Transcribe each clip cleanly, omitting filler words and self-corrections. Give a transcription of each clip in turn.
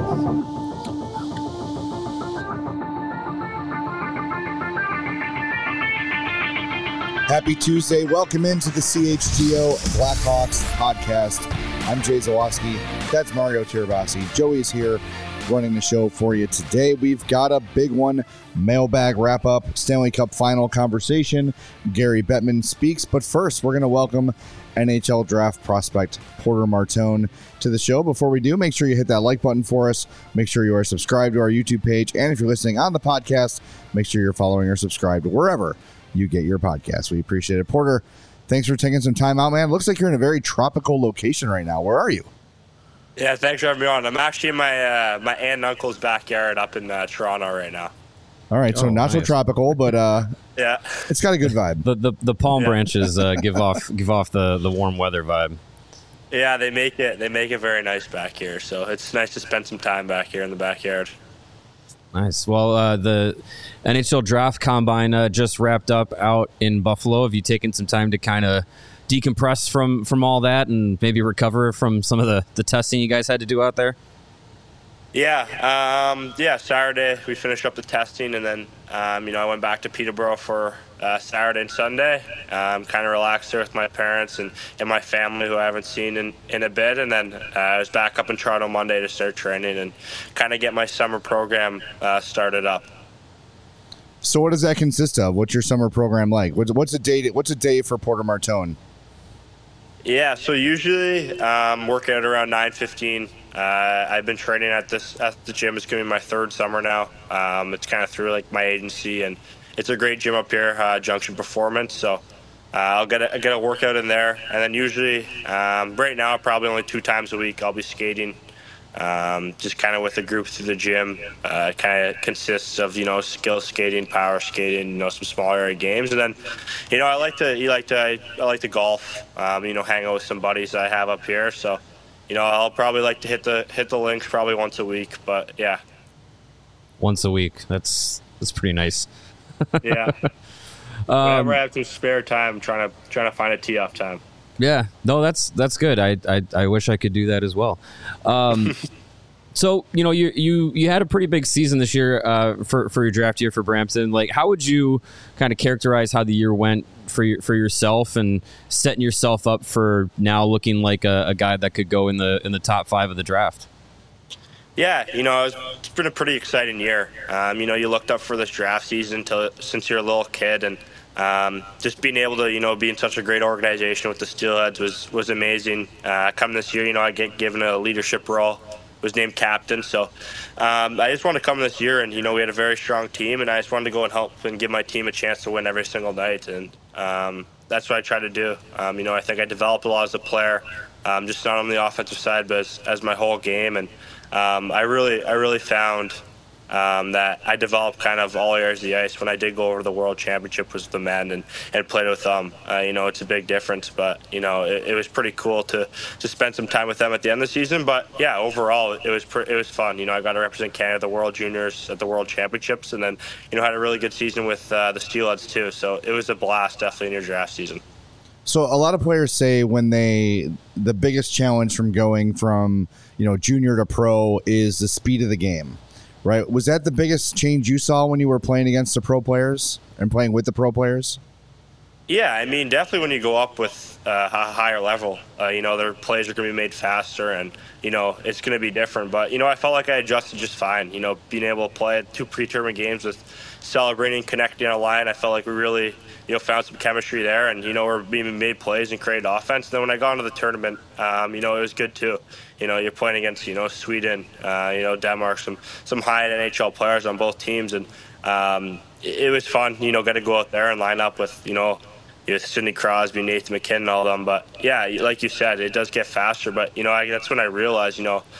Happy Tuesday. Welcome into the CHGO Blackhawks podcast. I'm Jay Zawaski. That's Mario Tirabassi. Joey's here running the show for you today. We've got a big one. Mailbag wrap-up, Stanley Cup final conversation. Gary Bettman speaks. But first, we're going to welcome NHL draft prospect Porter Martone to the show. Before we do, make sure you hit that like button for us. Make sure you are subscribed to our YouTube page. And if you're listening on the podcast, make sure you're following or subscribed wherever you get your podcast. We appreciate it. Porter, thanks for taking some time out, man. Looks like you're in a very tropical location right now. Where are you? Yeah, thanks for having me on. I'm actually in my my aunt and uncle's backyard up in Toronto right now. All right, so not nice. So tropical, but yeah, it's got a good vibe. The palm branches give off the warm weather vibe. Yeah, they make it very nice back here. So it's nice to spend some time back here in the backyard. Nice. Well, the NHL Draft Combine just wrapped up out in Buffalo. Have you taken some time to kind of decompress from all that and maybe recover from some of the testing you guys had to do out there? Yeah. Saturday we finished up the testing, and then I went back to Peterborough for Saturday and Sunday. Kind of relaxed there with my parents and my family, who I haven't seen in a bit. And then I was back up in Toronto Monday to start training and kind of get my summer program started up. So what does that consist of? What's your summer program like? What's a day for Porter Martone? Yeah, so usually working out around 9:15. I've been training at the gym. It's going to be my third summer now. It's kind of through like my agency, and it's a great gym up here, Junction Performance. So I'll get a workout in there, and then usually right now probably only 2 times a week I'll be skating. Just kind of with a group through the gym. It kind of consists of skill skating, power skating, some small area games, and then I like to golf. Hang out with some buddies that I have up here. So I'll probably like to hit the links probably once a week. But yeah, once a week. That's pretty nice. Yeah. Whenever I have some spare time, I'm trying to find a tee off time. Yeah, no, that's good. I wish I could do that as well. So you had a pretty big season this year for your draft year for Brampton. Like, how would you kind of characterize how the year went for yourself and setting yourself up for now looking like a guy that could go in the top 5 of the draft? Yeah, it's been a pretty exciting year. You looked up for this draft season since you're a little kid, and just being able to, be in such a great organization with the Steelheads was amazing. Coming this year, I get given a leadership role, was named captain. So I just wanted to come this year, and, we had a very strong team, and I just wanted to go and help and give my team a chance to win every single night. And that's what I try to do. I think I developed a lot as a player, just not on the offensive side, but as my whole game. And I really found that I developed kind of all areas of the ice. When I did go over to the World Championship with the men and played with them, it's a big difference. But, it was pretty cool to spend some time with them at the end of the season. But, yeah, overall, it was fun. I got to represent Canada at the World Juniors at the World Championships, and then, had a really good season with the Steelheads too. So it was a blast, definitely, in your draft season. So a lot of players say the biggest challenge from going from, junior to pro is the speed of the game. Right. Was that the biggest change you saw when you were playing against the pro players and playing with the pro players? Yeah, definitely when you go up with a higher level, their plays are going to be made faster, and, it's going to be different. But, I felt like I adjusted just fine, being able to play 2 pre-tournament games with celebrating, connecting on a line. I felt like we really, found some chemistry there, and, we're being made plays and created offense. And then when I got into the tournament, it was good too. You're playing against, Sweden, Denmark, some high NHL players on both teams. And it was fun, got to go out there and line up with, Sidney Crosby, Nathan McKinnon, all of them. But, yeah, like you said, it does get faster. But, that's when I realized, these are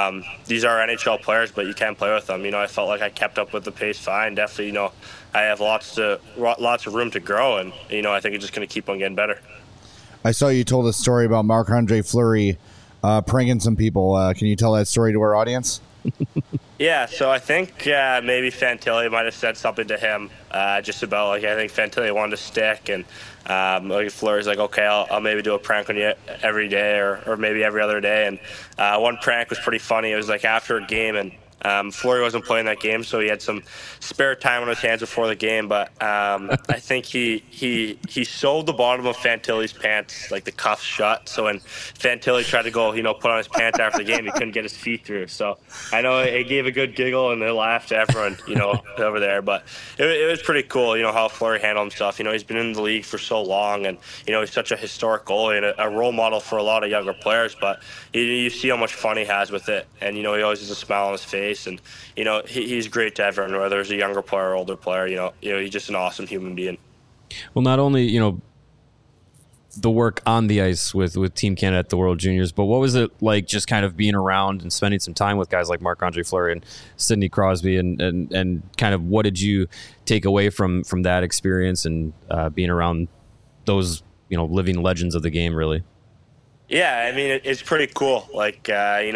NHL players, but you can't play with them. I felt like I kept up with the pace fine. Definitely, I have lots of room to grow, and, I think it's just going to keep on getting better. I saw you told a story about Marc-Andre Fleury pranking some people. Can you tell that story to our audience? Yeah, so I think maybe Fantilli might have said something to him just about, like, I think Fantilli wanted to stick, and like Fleury's like, okay, I'll maybe do a prank on you every day or maybe every other day. And one prank was pretty funny. It was like after a game, and Fleury wasn't playing that game, so he had some spare time on his hands before the game. But I think he sewed the bottom of Fantilli's pants, like the cuffs shut. So when Fantilli tried to go, put on his pants after the game, he couldn't get his feet through. So I know it gave a good giggle and they laughed to everyone, over there. But it was pretty cool, how Fleury handled himself. He's been in the league for so long, and he's such a historic goalie and a role model for a lot of younger players. But you see how much fun he has with it, and he always has a smile on his face. And he's great to everyone, whether it's a younger player or older player. He's just an awesome human being. Well, not only the work on the ice with Team Canada at the World Juniors, but what was it like just kind of being around and spending some time with guys like Marc-Andre Fleury and Sidney Crosby, and kind of what did you take away from that experience and being around those living legends of the game, really? Yeah, I mean, it's pretty cool. Like,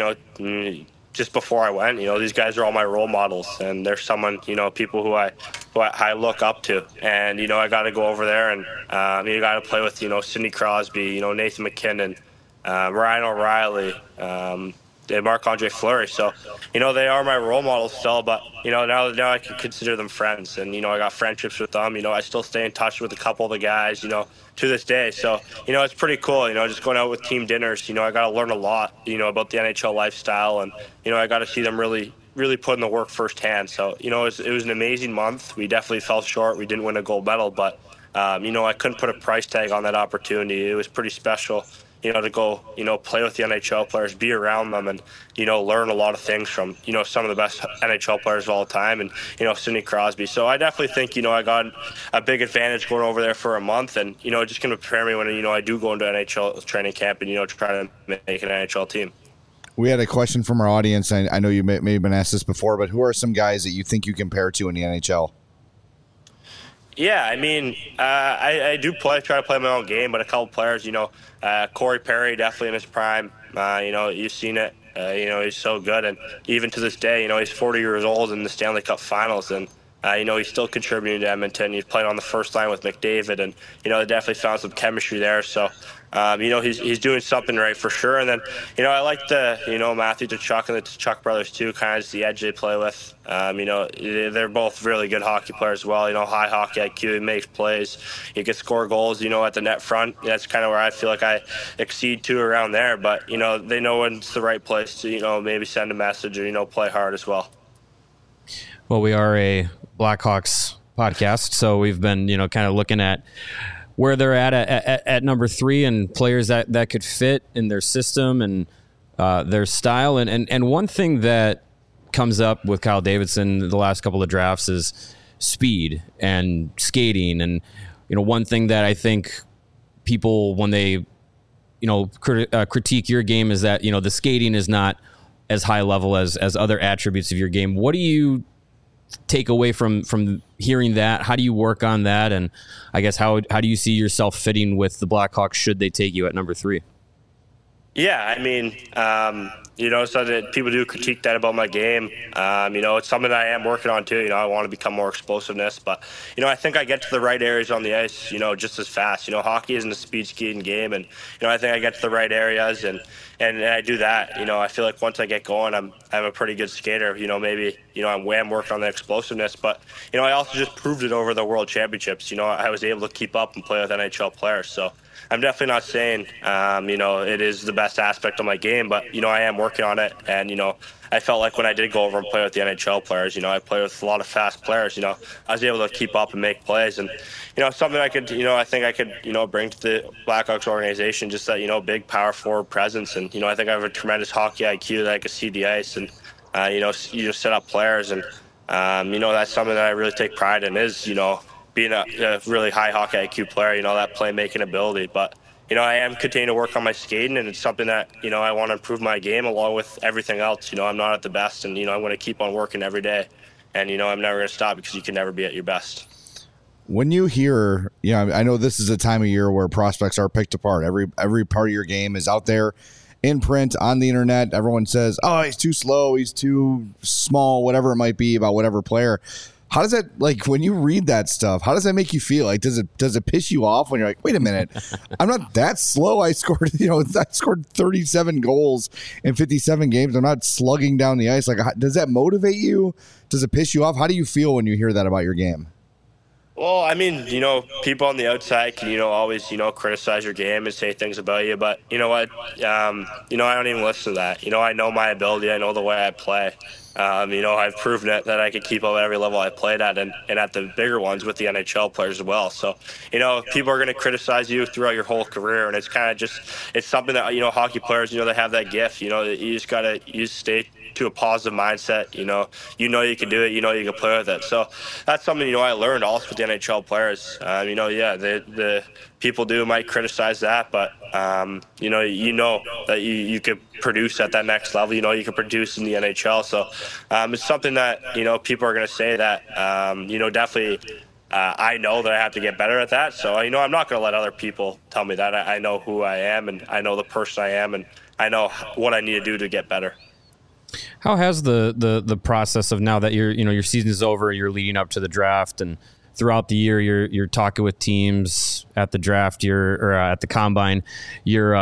just before I went, these guys are all my role models, and there's someone, people who I look up to, and I got to go over there and you got to play with Sidney Crosby, Nathan MacKinnon, Ryan O'Reilly, and Marc-Andre Fleury. So they are my role models still, but now I can consider them friends, and I got friendships with them. I still stay in touch with a couple of the guys, to this day. So it's pretty cool. Just going out with team dinners. I got to learn a lot, about the NHL lifestyle, and I got to see them really put in the work firsthand. So it was an amazing month. We definitely fell short. We didn't win a gold medal, but I couldn't put a price tag on that opportunity. It was pretty special, to go, play with the NHL players, be around them, and, learn a lot of things from, some of the best NHL players of all time, and, Sidney Crosby. So I definitely think, I got a big advantage going over there for a month, and, just going to prepare me when, I do go into NHL training camp and, try to make an NHL team. We had a question from our audience. I know you may have been asked this before, but who are some guys that you think you compare to in the NHL? Yeah, I mean, I do try to play my own game, but a couple players, Corey Perry, definitely in his prime. You've seen it. He's so good, and even to this day, he's 40 years old in the Stanley Cup Finals, and he's still contributing to Edmonton. He's playing on the first line with McDavid, and they definitely found some chemistry there. So, he's doing something right for sure. And then, I like the Matthew Tkachuk and the Tkachuk brothers too. Kind of the edge they play with. They're both really good hockey players as well. High hockey IQ. He makes plays. He can score goals. At the net front. That's kind of where I feel like I exceed to around there. But they know when it's the right place to maybe send a message or play hard as well. Well, we are a Blackhawks podcast, so we've been kind of looking at where they're at number 3 and players that could fit in their system and their style. And one thing that comes up with Kyle Davidson the last couple of drafts is speed and skating. And, one thing that I think people, when they, critique your game is that, the skating is not as high level as other attributes of your game. What do you take away from hearing that? How do you work on that? And I guess how do you see yourself fitting with the Blackhawks should they take you at number 3? Yeah, I mean, so that people do critique that about my game. It's something that I am working on too. I want to become more explosiveness, but I think I get to the right areas on the ice, just as fast. Hockey isn't a speed skating game, and I think I get to the right areas and I do that. I feel like once I get going, I'm a pretty good skater. Maybe I'm working on the explosiveness, but I also just proved it over the World Championships. I was able to keep up and play with NHL players, so I'm definitely not saying, it is the best aspect of my game, but, I am working on it. And, I felt like when I did go over and play with the NHL players, I play with a lot of fast players, I was able to keep up and make plays. And, something I could, I think I could, bring to the Blackhawks organization, just that, big power forward presence. And, I think I have a tremendous hockey IQ that I could see the ice and, set up players. And, that's something that I really take pride in is, being a really high hockey IQ player, that playmaking ability. But, I am continuing to work on my skating, and it's something that, I want to improve my game along with everything else. I'm not at the best, and, I'm going to keep on working every day. And, I'm never going to stop because you can never be at your best. When you hear, I know this is a time of year where prospects are picked apart. Every part of your game is out there, in print, on the internet, everyone says, oh, he's too slow, he's too small, whatever it might be about whatever player. How does that, like, when you read that stuff, how does that make you feel? Like, does it piss you off when you're like, wait a minute, I'm not that slow. I scored 37 goals in 57 games. I'm not slugging down the ice. Like, does that motivate you? Does it piss you off? How do you feel when you hear that about your game? Well, I mean, people on the outside can, always, criticize your game and say things about you. But you know what? I don't even listen to that. I know my ability. I know the way I play. I've proven it that I could keep up at every level I played at and at the bigger ones with the NHL players as well. So, people are going to criticize you throughout your whole career. And it's kind of it's something that, hockey players, they have that gift. You just got to stay to a positive mindset. You can do it. You can play with it. So that's something, I learned also with the NHL players. The people might criticize that, but, that you could produce at that next level. You could produce in the NHL. So it's something that, people are going to say that, definitely I know that I have to get better at that. So, I'm not going to let other people tell me that. I know who I am, and I know the person I am, and I know what I need to do to get better. How has the process of now that your season is over, you're leading up to the draft, and throughout the year you're talking with teams at the draft, at the combine, you're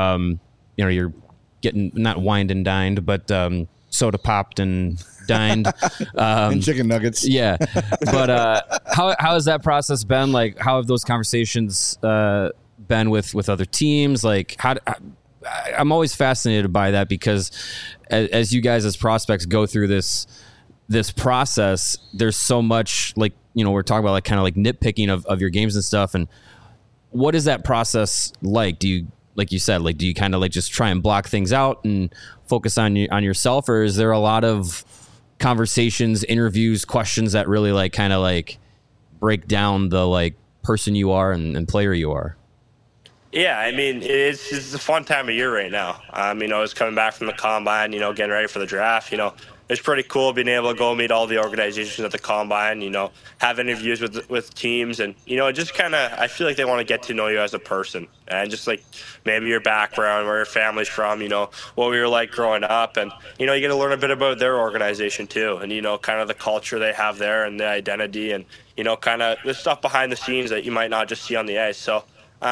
getting not wined and dined, but soda popped and dined, and chicken nuggets. Yeah, but how has that process been? Like, how have those conversations been with other teams? Like, I'm always fascinated by that, because as you guys as prospects go through this process, there's so much, like, we're talking about, like, kind of like nitpicking of your games and stuff. And what is that process like? Do you, like you said, like, do you kind of like just try and block things out and focus on yourself, or is there a lot of conversations, interviews, questions that really like kind of like break down the like person you are and player you are? Yeah, I mean, it's a fun time of year right now. It's coming back from the combine, getting ready for the draft. It's pretty cool being able to go meet all the organizations at the combine, have interviews with teams. And, just kind of, I feel like they want to get to know you as a person, and just like maybe your background, where your family's from, what we were like growing up. And, you get to learn a bit about their organization too. And, kind of the culture they have there and the identity and, kind of the stuff behind the scenes that you might not just see on the ice. So,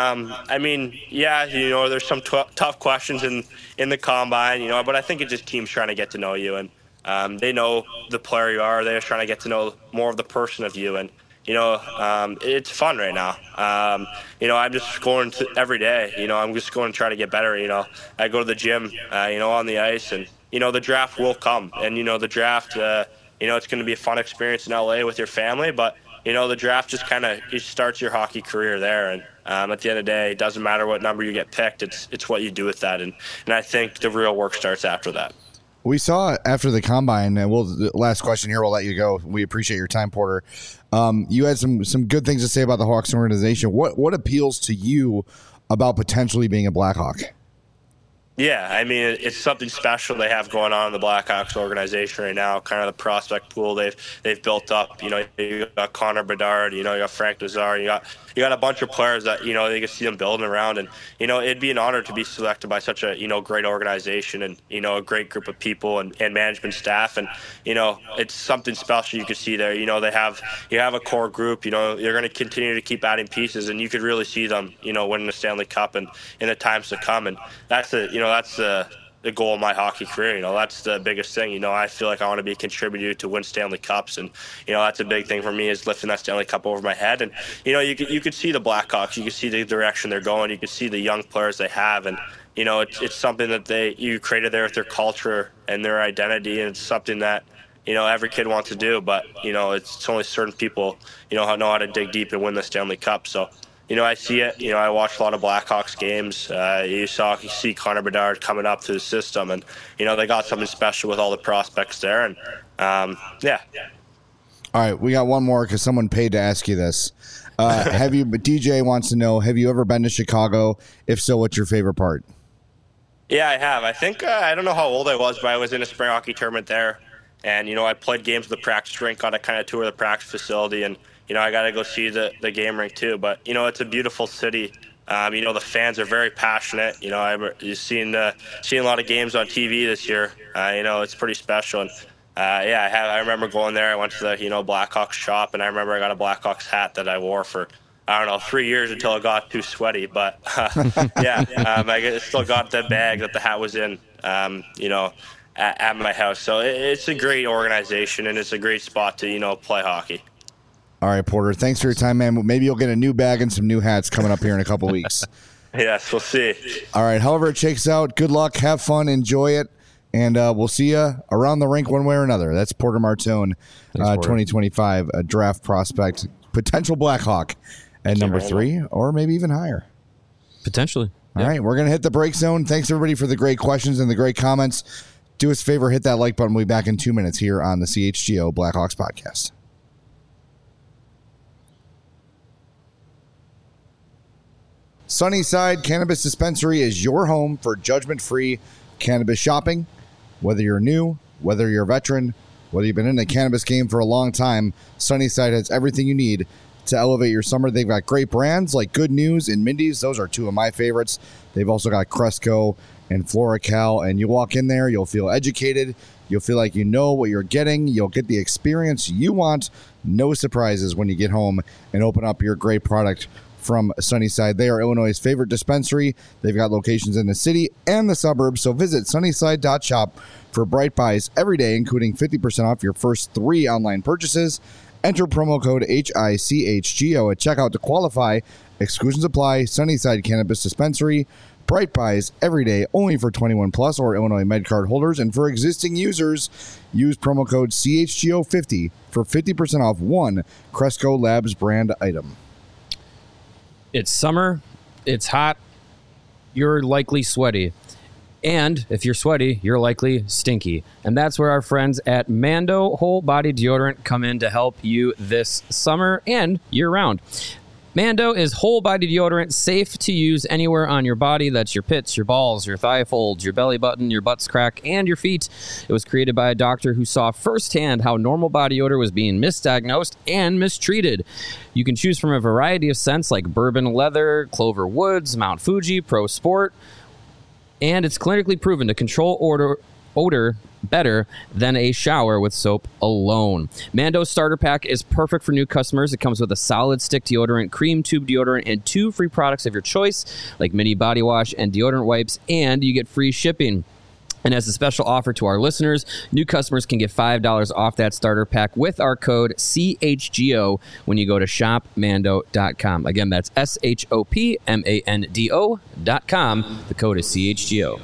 there's some tough questions in the combine, but I think it's just teams trying to get to know you, and they know the player you are. They're trying to get to know more of the person of you, and it's fun right now. I'm just going to every day. I'm just going to try to get better. I go to the gym, on the ice, and the draft will come, and the draft, it's going to be a fun experience in LA with your family, but the draft just kind of starts your hockey career there. And at the end of the day, it doesn't matter what number you get picked. It's what you do with that. And I think the real work starts after that. We saw after the combine, and the last question here, we'll let you go. We appreciate your time, Porter. You had some good things to say about the Hawks organization. What appeals to you about potentially being a Blackhawk? Yeah, I mean, it's something special they have going on in the Blackhawks organization right now. Kind of the prospect pool they've built up. You got Connor Bedard, you got Frank Nazar, you got a bunch of players that they can see them building around, and it'd be an honor to be selected by such a great organization and a great group of people and management staff, and it's something special you can see there. You have a core group. You're going to continue to keep adding pieces, and you could really see them winning the Stanley Cup and in the times to come, and that's the goal of my hockey career. That's the biggest thing. I feel like I want to be a contributor to win Stanley Cups, and that's a big thing for me, is lifting that Stanley Cup over my head. And you could see the Blackhawks, you could see the direction they're going, you could see the young players they have, and it's something that you created there with their culture and their identity, and it's something that every kid wants to do, but it's only certain people know how to dig deep and win the Stanley Cup. So I see it. I watch a lot of Blackhawks games. You see Connor Bedard coming up through the system, and they got something special with all the prospects there. And yeah. All right, we got one more because someone paid to ask you this. DJ wants to know: have you ever been to Chicago? If so, what's your favorite part? Yeah, I have. I think I don't know how old I was, but I was in a spring hockey tournament there, and I played games with the practice rink, got to kind of tour the practice facility, and I got to go see the game rink too. But it's a beautiful city The fans are very passionate. You've seen a lot of games on TV this year. It's pretty special. And I remember going there. I went to the Blackhawks shop, and I remember I got a Blackhawks hat that I wore for 3 years until it got too sweaty. But I still got the bag that the hat was in. At my house. So it's a great organization, and it's a great spot to play hockey. All right, Porter, thanks for your time, man. Maybe you'll get a new bag and some new hats coming up here in a couple weeks. Yes, we'll see. All right, however it shakes out, good luck, have fun, enjoy it, and we'll see you around the rink one way or another. That's Porter Martone, 2025 draft prospect, potential Blackhawk at number 3, or maybe even higher. Potentially. All right, we're going to hit the break zone. Thanks, everybody, for the great questions and the great comments. Do us a favor, hit that like button. We'll be back in 2 minutes here on the CHGO Blackhawks podcast. Sunnyside Cannabis Dispensary is your home for judgment-free cannabis shopping. Whether you're new, whether you're a veteran, whether you've been in the cannabis game for a long time, Sunnyside has everything you need to elevate your summer. They've got great brands like Good News and Mindy's. Those are two of my favorites. They've also got Cresco and FloraCal, and you walk in there, you'll feel educated. You'll feel like you know what you're getting. You'll get the experience you want. No surprises when you get home and open up your great product from Sunnyside. They are Illinois' favorite dispensary. They've got locations in the city and the suburbs, so visit sunnyside.shop for bright buys every day, including 50% off your first 3 online purchases. Enter promo code HICHGO at checkout to qualify. Exclusions apply. Sunnyside Cannabis Dispensary. Bright buys every day, only for 21 plus or Illinois MedCard holders. And for existing users, use promo code CHGO50 for 50% off one Cresco Labs brand item. It's summer. It's hot. You're likely sweaty. And if you're sweaty, you're likely stinky. And that's where our friends at Mando Whole Body Deodorant come in to help you this summer and year-round. Mando is whole body deodorant, safe to use anywhere on your body. That's your pits, your balls, your thigh folds, your belly button, your butt's crack, and your feet. It was created by a doctor who saw firsthand how normal body odor was being misdiagnosed and mistreated. You can choose from a variety of scents like bourbon leather, Clover Woods, Mount Fuji, Pro Sport, and it's clinically proven to control odor better than a shower with soap alone. Mando's starter pack is perfect for new customers. It comes with a solid stick deodorant, cream tube deodorant, and 2 free products of your choice, like mini body wash and deodorant wipes, and you get free shipping. And as a special offer to our listeners, new customers can get $5 off that starter pack with our code CHGO when you go to shopmando.com. Again, that's SHOPMANDO.com. The code is CHGO.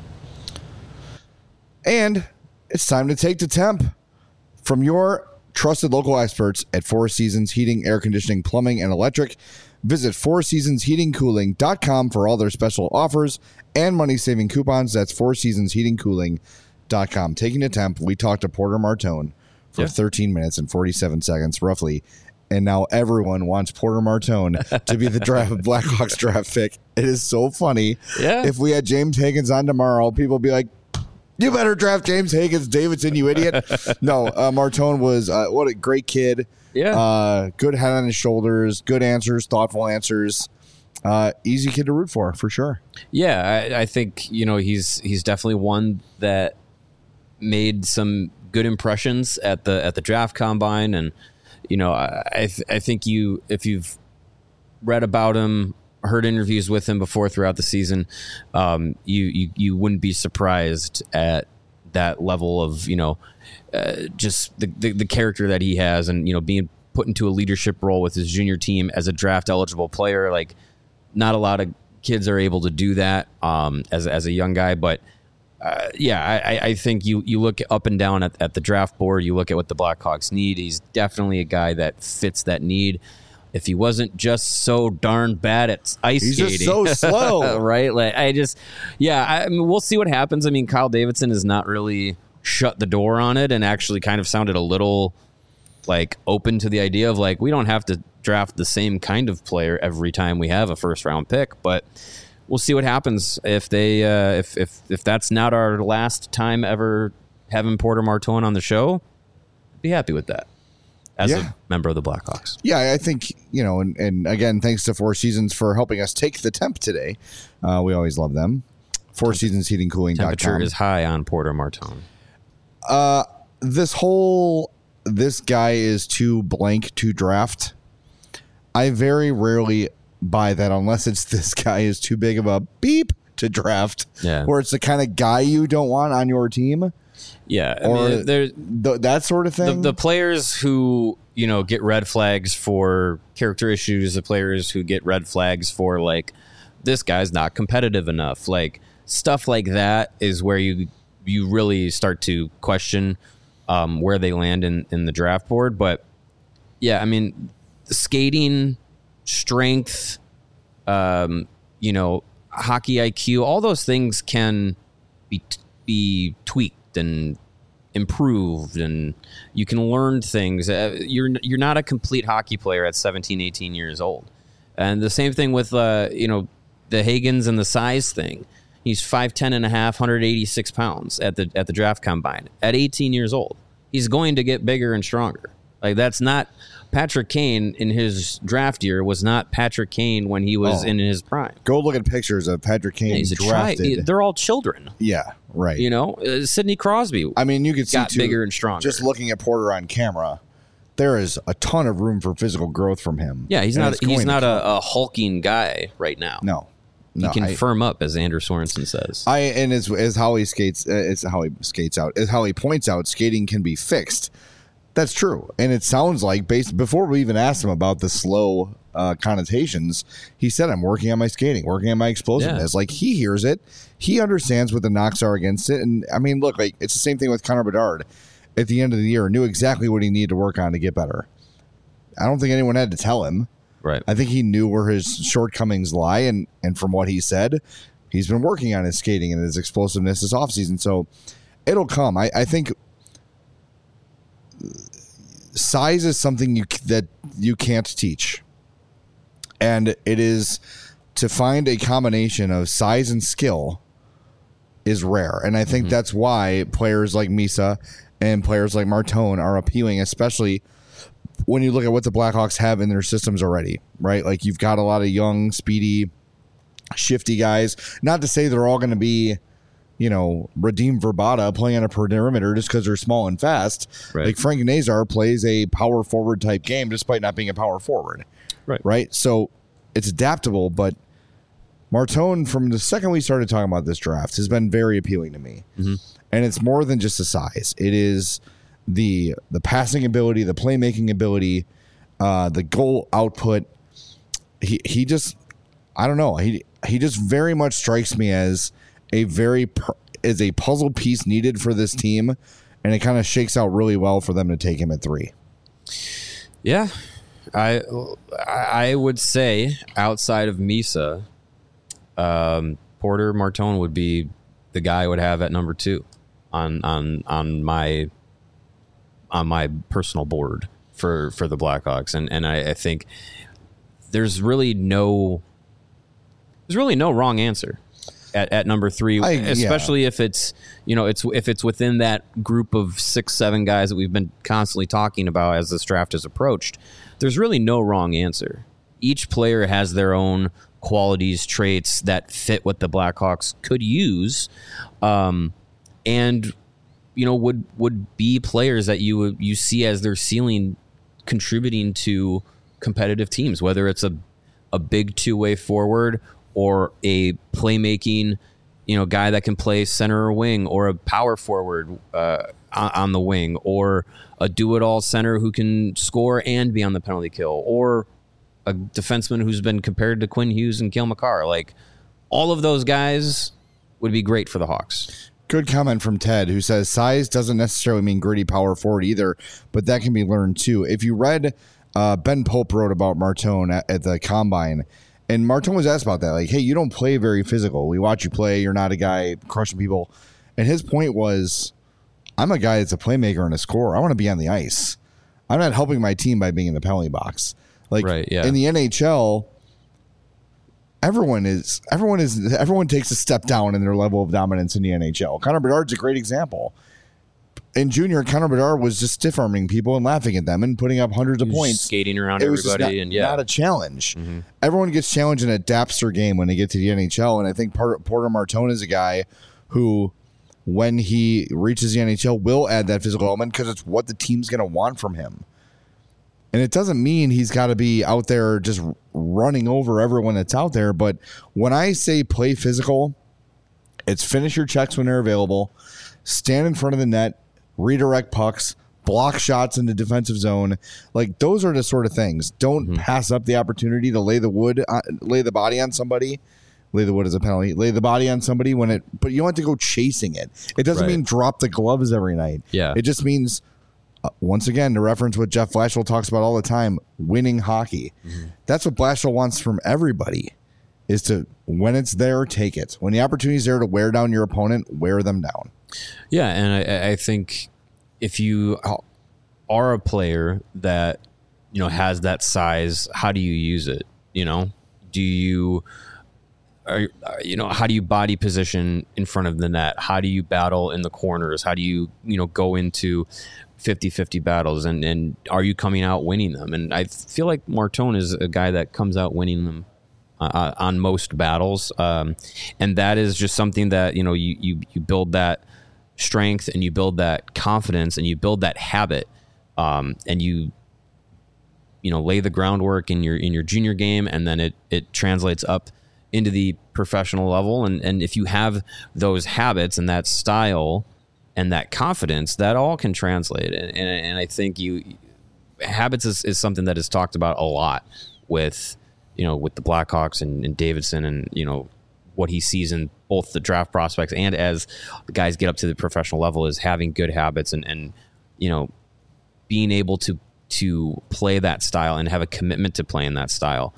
And it's time to take the temp from your trusted local experts at Four Seasons Heating, Air Conditioning, Plumbing, and Electric. Visit fourseasonsheatingcooling.com for all their special offers and money-saving coupons. That's fourseasonsheatingcooling.com. Taking the temp, we talked to Porter Martone for 13 minutes and 47 seconds, roughly. And now everyone wants Porter Martone to be the Blackhawks draft pick. It is so funny. Yeah. If we had James Higgins on tomorrow, people would be like, you better draft James Higgins, Davidson, you idiot. No, Martone was, what a great kid. Yeah. Good head on his shoulders, good answers, thoughtful answers. Easy kid to root for sure. Yeah, I think, he's definitely one that made some good impressions at the draft combine. And, I think if you've read about him, heard interviews with him before throughout the season, you wouldn't be surprised at that level of just the character that he has, and being put into a leadership role with his junior team as a draft eligible player. Like, not a lot of kids are able to do that as a young guy, but I think you look up and down at the draft board, you look at what the Blackhawks need. He's definitely a guy that fits that need. If he wasn't just so darn bad at ice skating. He's just so slow. Right? Like, we'll see what happens. I mean, Kyle Davidson has not really shut the door on it and actually kind of sounded a little like open to the idea of like, we don't have to draft the same kind of player every time we have a first round pick, but we'll see what happens if they if that's not our last time ever having Porter Martone on the show. I'd be happy with that. as a member of the Blackhawks. Yeah, I think, and again, thanks to Four Seasons for helping us take the temp today. We always love them. Four Seasons Heating Cooling. Temperature is high on Porter Martone. This guy is too blank to draft. I very rarely buy that unless it's this guy is too big of a beep to draft. Yeah. Where it's the kind of guy you don't want on your team. Yeah. That sort of thing. The players who, get red flags for character issues, the players who get red flags for like, this guy's not competitive enough. Like stuff like that is where you really start to question where they land in the draft board. But yeah, I mean, skating, strength, hockey IQ, all those things can be tweaked and improved, and you can learn things. You're not a complete hockey player at 17, 18 years old. And the same thing with, the Hagens and the size thing. He's 5'10 and a half, 186 pounds at the draft combine at 18 years old. He's going to get bigger and stronger. Like that's not Patrick Kane in his draft year was not Patrick Kane when he was in his prime. Go look at pictures of Patrick Kane he's drafted. They're all children. Yeah, right. Sidney Crosby. I mean, you could see got bigger and stronger. Just looking at Porter on camera, there is a ton of room for physical growth from him. Yeah, he's not a hulking guy right now. No. He can firm up, as Andrew Sorensen says. As how he skates, it's how he skates out. As how he points out, skating can be fixed. That's true, and it sounds like before we even asked him about the slow connotations, he said, "I'm working on my skating, working on my explosiveness." Yeah. Like he hears it, he understands what the knocks are against it, and I mean, look, like it's the same thing with Connor Bedard. At the end of the year, knew exactly what he needed to work on to get better. I don't think anyone had to tell him. Right. I think he knew where his shortcomings lie, and from what he said, he's been working on his skating and his explosiveness this offseason. So it'll come. I think size is something that you can't teach, and it is to find a combination of size and skill is rare. And I think that's why players like Misa and players like Martone are appealing, especially when you look at what the Blackhawks have in their systems already, right? Like you've got a lot of young, speedy, shifty guys. Not to say they're all going to be, Radim Verbata playing on a perimeter just because they're small and fast. Right. Like Frank Nazar plays a power forward type game despite not being a power forward. Right. So it's adaptable, but Martone, from the second we started talking about this draft, has been very appealing to me. Mm-hmm. And it's more than just the size. It is the passing ability, the playmaking ability, the goal output. He just, I don't know. He just very much strikes me as a puzzle piece needed for this team, and it kind of shakes out really well for them to take him at 3. Yeah, I would say outside of Misa, Porter Martone would be the guy I would have at number 2 on my personal board for the Blackhawks, and I think there's really no wrong answer at number 3, especially if it's if it's within that group of 6-7 guys that we've been constantly talking about as this draft is approached. There's really no wrong answer. Each player has their own qualities, traits that fit what the Blackhawks could use, and would be players that you see as their ceiling contributing to competitive teams, whether it's a big two-way forward or a playmaking, guy that can play center or wing, or a power forward on the wing, or a do-it-all center who can score and be on the penalty kill, or a defenseman who's been compared to Quinn Hughes and Cale Makar. Like, all of those guys would be great for the Hawks. Good comment from Ted, who says size doesn't necessarily mean gritty power forward either, but that can be learned too. If you read, Ben Pope wrote about Martone at the Combine, and Martone was asked about that. Like, hey, you don't play very physical. We watch you play. You're not a guy crushing people. And his point was, I'm a guy that's a playmaker and a scorer. I want to be on the ice. I'm not helping my team by being in the penalty box. Like, right, yeah. In the NHL, everyone takes a step down in their level of dominance in the NHL. Connor Bedard's a great example. in junior, Connor Bedard was just stiff-arming people and laughing at them and putting up hundreds of points. Skating around it was everybody. Not a challenge. Everyone gets challenged in a Dapster game when they get to the NHL, and I think Porter Martone is a guy who, when he reaches the NHL, will add that physical element because it's what the team's going to want from him. And it doesn't mean he's got to be out there just running over everyone that's out there, but when I say play physical, it's finish your checks when they're available, stand in front of the net, redirect pucks, block shots in the defensive zone. Like, those are the sort of things. Don't pass up the opportunity to lay the body on somebody. Lay the wood as a penalty. Lay the body on somebody but you don't have to go chasing it. It doesn't mean drop the gloves every night. Yeah. It just means, once again, to reference what Jeff Blashill talks about all the time, winning hockey. That's what Blashill wants from everybody, is to, when it's there, take it. When the opportunity is there to wear down your opponent, wear them down. Yeah, and I think if you are a player that, has that size, how do you use it? Do you, how do you body position in front of the net? How do you battle in the corners? How do you, go into 50-50 battles? And are you coming out winning them? And I feel like Martone is a guy that comes out winning them on most battles. And that is just something that, you build that strength and you build that confidence and you build that habit, and you lay the groundwork in your junior game, and then it translates up into the professional level. And if you have those habits and that style and that confidence, that all can translate. And I think habits is something that is talked about a lot with with the Blackhawks and Davidson, and what he sees in both the draft prospects and as the guys get up to the professional level, is having good habits and being able to play that style and have a commitment to playing that style.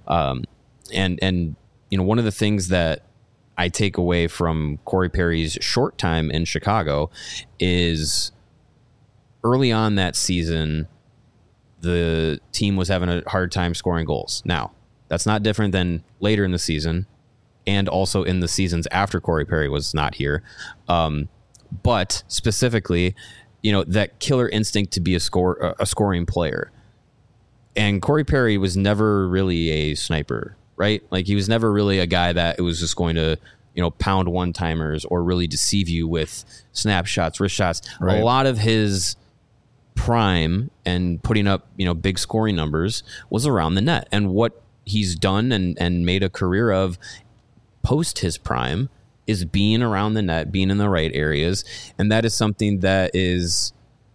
And one of the things that I take away from Corey Perry's short time in Chicago is early on that season, the team was having a hard time scoring goals. Now, that's not different than later in the season, and also in the seasons after Corey Perry was not here. But specifically, that killer instinct to be a scoring player. And Corey Perry was never really a sniper, right? Like, he was never really a guy that was just going to, pound one-timers or really deceive you with snapshots, wrist shots. Right. A lot of his prime and putting up, big scoring numbers was around the net. And what he's done and made a career of post his prime is being around the net, being in the right areas. And that is something that is,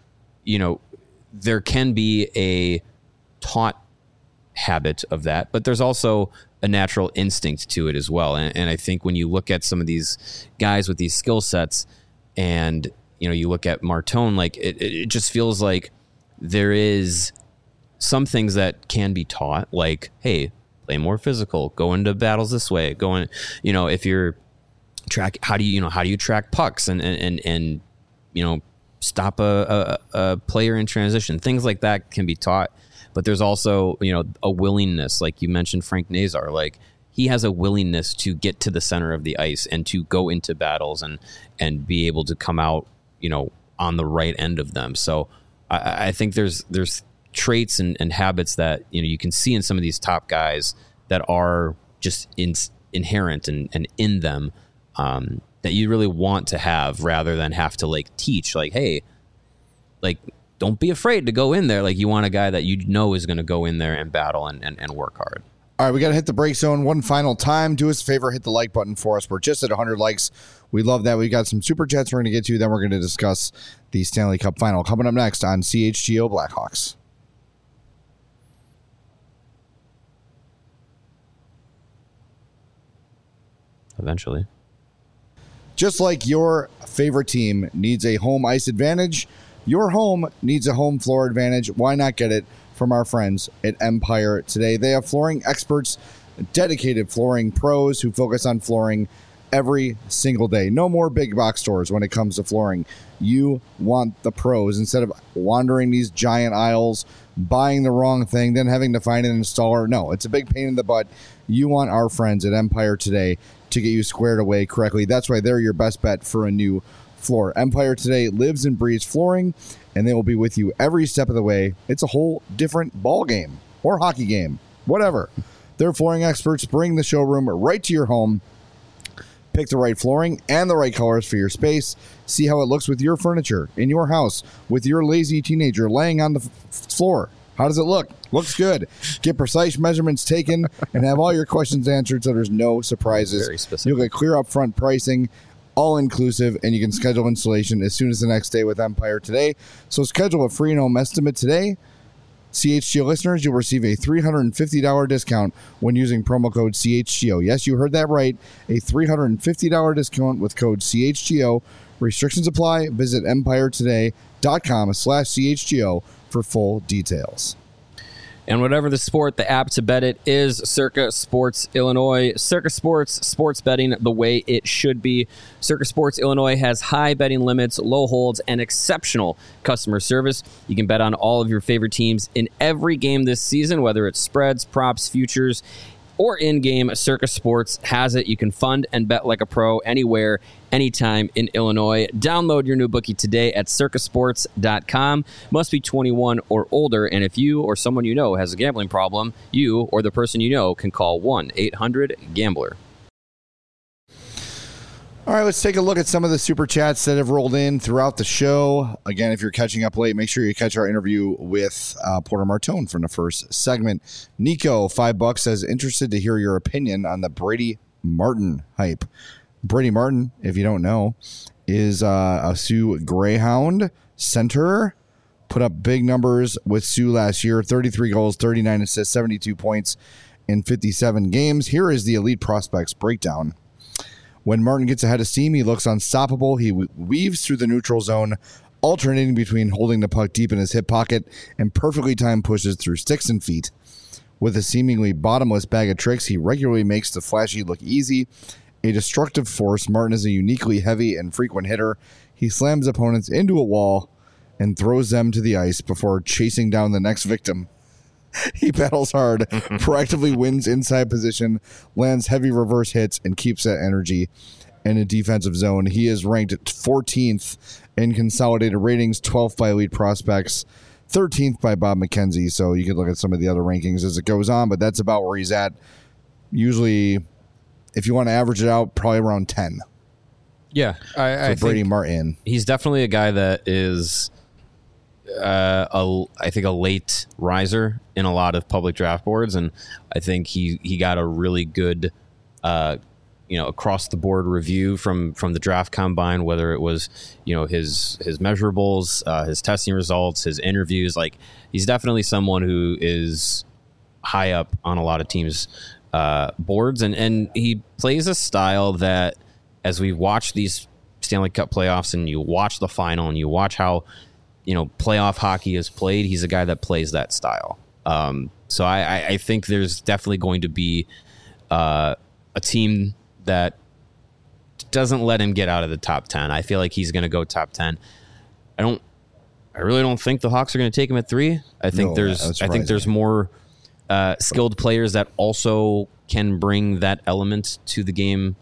there can be a taught habit of that, but there's also a natural instinct to it as well. And I think when you look at some of these guys with these skill sets, and you look at Martone, like it just feels like there is some things that can be taught, like, hey, play more physical, go into battles this way, if you're how do you track pucks and stop a player in transition. Things like that can be taught. But there's also, a willingness, like you mentioned Frank Nazar, like he has a willingness to get to the center of the ice and to go into battles and be able to come out, on the right end of them. So I think there's traits and habits that, you can see in some of these top guys that are just inherent and in them, that you really want to have, rather than have to like teach, like, hey, like, don't be afraid to go in there. Like, you want a guy that is going to go in there and battle and work hard. All right, we got to hit the break zone one final time. Do us a favor, hit the like button for us. We're just at 100 likes. We love that. We got some super chats we're going to get to. Then we're going to discuss the Stanley Cup final coming up next on CHGO Blackhawks. Eventually. Just like your favorite team needs a home ice advantage, your home needs a home floor advantage. Why not get it from our friends at Empire today? They have flooring experts, dedicated flooring pros who focus on flooring every single day. No more big box stores when it comes to flooring. You want the pros. Instead of wandering these giant aisles, buying the wrong thing, then having to find an installer. No, it's a big pain in the butt. You want our friends at Empire today to get you squared away correctly. That's why they're your best bet for a new floor. Empire Today lives and breathes flooring, and they will be with you every step of the way. It's a whole different ball game or hockey game, whatever. Their flooring experts bring the showroom right to your home. Pick the right flooring and the right colors for your space. See how it looks with your furniture in your house, with your lazy teenager laying on the floor. How does it look? Looks good. Get precise measurements taken and have all your questions answered so there's no surprises. Very specific. You'll get clear upfront pricing, all inclusive, and you can schedule installation as soon as the next day with Empire Today. So schedule a free and home estimate today. CHGO listeners, you'll receive a $350 discount when using promo code CHGO. Yes, you heard that right. A $350 discount with code CHGO. Restrictions apply. Visit empiretoday.com/CHGO for full details. And whatever the sport, the app to bet it is Circa Sports Illinois. Circa Sports, sports betting the way it should be. Circa Sports Illinois has high betting limits, low holds, and exceptional customer service. You can bet on all of your favorite teams in every game this season, whether it's spreads, props, futures, or in-game. Circa Sports has it. You can fund and bet like a pro anywhere, anytime in Illinois. Download your new bookie today at circasports.com. Must be 21 or older, and if you or someone you know has a gambling problem, you or the person you know can call 1-800-GAMBLER. All right, let's take a look at some of the super chats that have rolled in throughout the show. Again, if you're catching up late, make sure you catch our interview with Porter Martone from the first segment. Nico, $5, says, interested to hear your opinion on the Brady Martin hype. Brady Martin, if you don't know, is a Sioux Greyhound center. Put up big numbers with Sioux last year, 33 goals, 39 assists, 72 points in 57 games. Here is the elite prospects breakdown. When Martin gets ahead of steam, he looks unstoppable. He weaves through the neutral zone, alternating between holding the puck deep in his hip pocket and perfectly timed pushes through sticks and feet. With a seemingly bottomless bag of tricks, he regularly makes the flashy look easy. A destructive force, Martin is a uniquely heavy and frequent hitter. He slams opponents into a wall and throws them to the ice before chasing down the next victim. He battles hard, proactively wins inside position, lands heavy reverse hits, and keeps that energy in a defensive zone. He is ranked 14th in consolidated ratings, 12th by Elite Prospects, 13th by Bob McKenzie. So you could look at some of the other rankings as it goes on, but that's about where he's at. Usually, if you want to average it out, probably around 10. Yeah, I Brady think Martin. He's definitely a guy that is, I think, a late riser in a lot of public draft boards, and I think he got a really good, across the board review from the draft combine, whether it was his measurables, his testing results, his interviews. Like, he's definitely someone who is high up on a lot of teams' boards, and he plays a style that, as we watch these Stanley Cup playoffs and you watch the final and you watch how playoff hockey is played, he's a guy that plays that style. So I think there's definitely going to be a team that doesn't let him get out of the top 10. I feel like he's going to go top 10. I really don't think the Hawks are going to take him at 3. I think there's more skilled players that also can bring that element to the game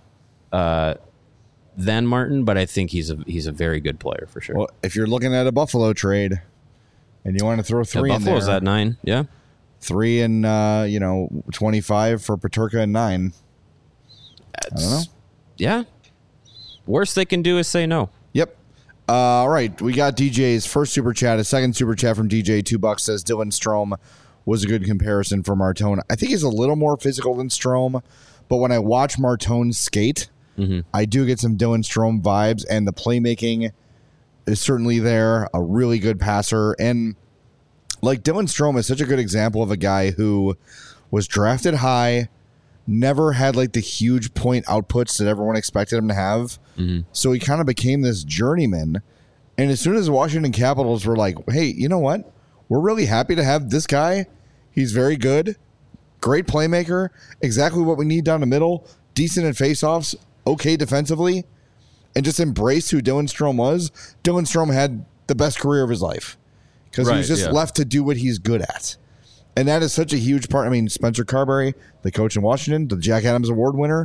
than Martin, but I think he's a very good player for sure. Well, if you're looking at a Buffalo trade and you want to throw 3 in there. Buffalo's at 9, yeah. 3 and 25 for Peterka and 9. I don't know. Yeah. Worst they can do is say no. Yep. All right. We got DJ's first super chat. A second super chat from DJ, $2, says Dylan Strome was a good comparison for Martone. I think he's a little more physical than Strome, but when I watch Martone skate, I do get some Dylan Strome vibes, and the playmaking is certainly there. A really good passer. And like, Dylan Strome is such a good example of a guy who was drafted high, never had like the huge point outputs that everyone expected him to have. So he kind of became this journeyman. And as soon as the Washington Capitals were like, hey, you know what? We're really happy to have this guy. He's very good. Great playmaker. Exactly what we need down the middle. Decent at faceoffs. Okay defensively. And just embrace who Dylan Strome was. Dylan Strome had the best career of his life. Because he was just left to do what he's good at. And that is such a huge part. I mean, Spencer Carberry, the coach in Washington, the Jack Adams Award winner.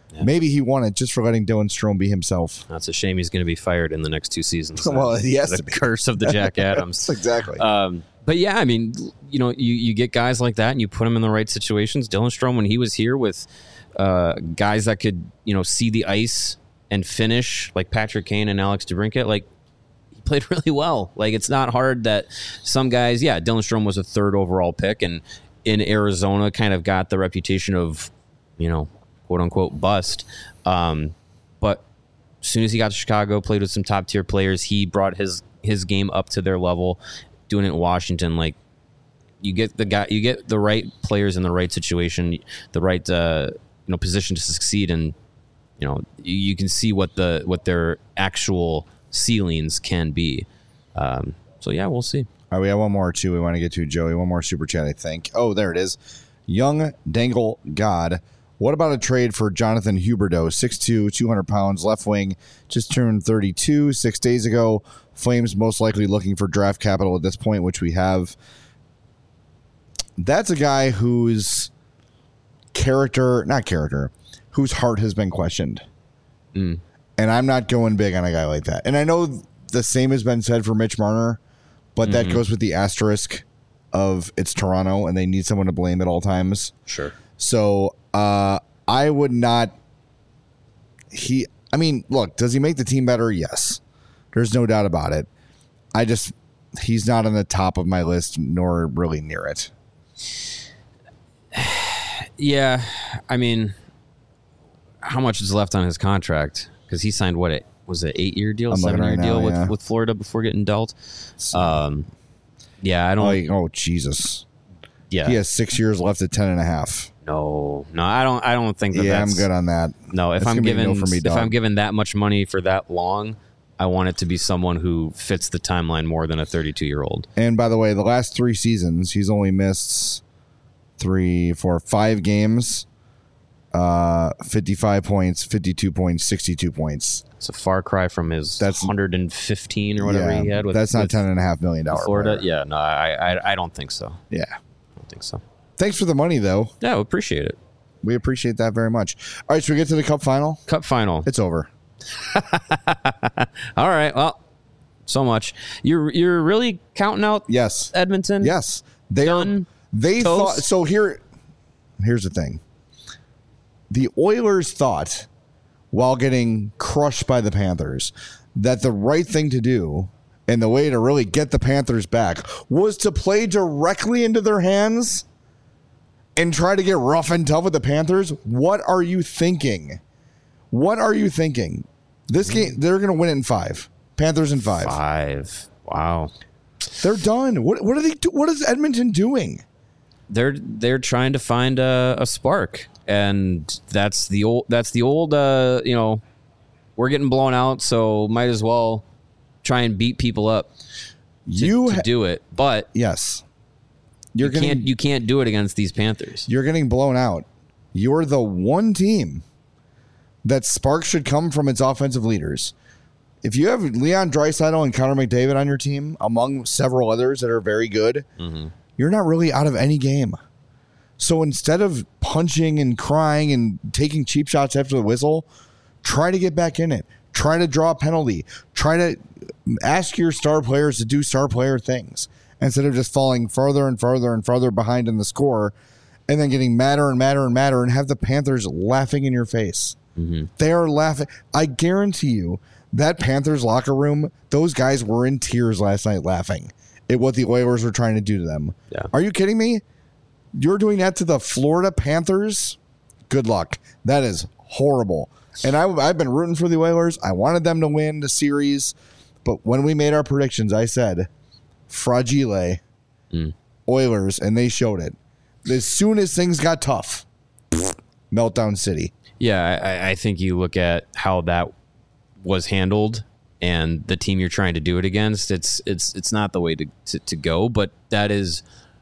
Yeah. Maybe he won it just for letting Dylan Strome be himself. That's a shame. He's going to be fired in the next 2 seasons. Well, he has the to be. Curse of the Jack Adams. Exactly. But yeah, I mean, you get guys like that and you put them in the right situations. Dylan Strome, when he was here with guys that could, see the ice and finish, like Patrick Kane and Alex DeBrincat, like, he played really well. Like, it's not hard that some guys, Dylan Strome was a 3rd overall pick and in Arizona kind of got the reputation of, quote unquote bust. But as soon as he got to Chicago, played with some top tier players, he brought his game up to their level. Doing it in Washington, like, you get the right players in the right situation, the right position to succeed, and you can see what their actual ceilings can be. So yeah, we'll see. All right, we have one more too we want to get to, Joey. One more super chat, I think. Oh, there it is. Young Dangle God. What about a trade for Jonathan Huberdeau, 6'2", 200 pounds, left wing, just turned 32 6 days ago. Flames most likely looking for draft capital at this point, which we have. That's a guy whose whose heart has been questioned. And I'm not going big on a guy like that. And I know the same has been said for Mitch Marner, but that goes with the asterisk of it's Toronto and they need someone to blame at all times. Sure. So I would not. Look, does he make the team better? Yes. There's no doubt about it. He's not on the top of my list, nor really near it. Yeah. I mean, how much is left on his contract? Because he signed, what, was it 8-year deal, 7-year deal with Florida before getting dealt? Yeah, I don't. Oh, Jesus. Yeah. He has 6 years left at 10.5. No, I don't think that. Yeah, I'm good on that. No, if I'm given that much money for that long, I want it to be someone who fits the timeline more than a 32-year-old. And by the way, the last 3 seasons, he's only missed 5 games, 55 points, 52 points, 62 points. It's a far cry from his 115 or whatever he had. That's not $10.5 million. Florida, player. yeah, no, I don't think so. Yeah, I don't think so. Thanks for the money, though. Yeah, we appreciate it. We appreciate that very much. All right, should we get to the Cup final? Cup final. It's over. All right. Well, so much. You're really counting out? Yes. Edmonton. Yes. They thought. So here's the thing. The Oilers thought, while getting crushed by the Panthers, that the right thing to do and the way to really get the Panthers back was to play directly into their hands and try to get rough and tough with the Panthers. What are you thinking? This game, they're going to win it in 5. Panthers in 5. 5. Wow. They're done. What are they do? What is Edmonton doing? They're trying to find a spark, and that's the old we're getting blown out, so might as well try and beat people up to do it. But yes, you can't do it against these Panthers. You're getting blown out. You're the one team that spark should come from its offensive leaders. If you have Leon Draisaitl and Connor McDavid on your team, among several others that are very good, you're not really out of any game. So instead of punching and crying and taking cheap shots after the whistle, try to get back in it. Try to draw a penalty. Try to ask your star players to do star player things instead of just falling further and further and further behind in the score and then getting madder and madder and madder and have the Panthers laughing in your face. They are laughing. I guarantee you that Panthers locker room, those guys were in tears last night laughing at what the Oilers were trying to do to them. Yeah. Are you kidding me? You're doing that to the Florida Panthers? Good luck. That is horrible. And I've been rooting for the Oilers. I wanted them to win the series. But when we made our predictions, I said, fragile Oilers, and they showed it. As soon as things got tough, meltdown city. Yeah, I think you look at how that was handled and the team you're trying to do it against, it's not the way to go, but that is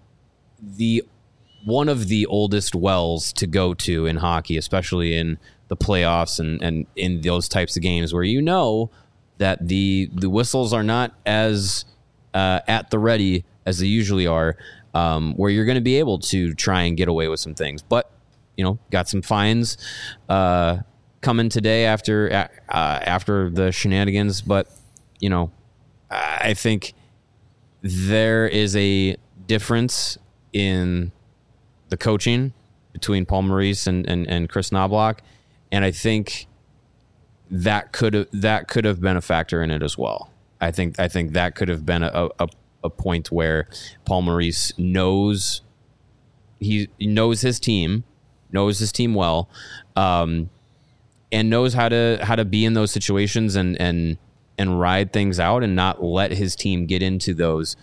one of the oldest wells to go to in hockey, especially in the playoffs and in those types of games where you know that the whistles are not as at the ready as they usually are, where you're going to be able to try and get away with some things. But got some fines come in today after the shenanigans, but I think there is a difference in the coaching between Paul Maurice and Chris Knobloch, and I think that could have been a factor in it as well. I think that could have been a point where Paul Maurice knows his team well, and knows how to be in those situations and ride things out and not let his team get into those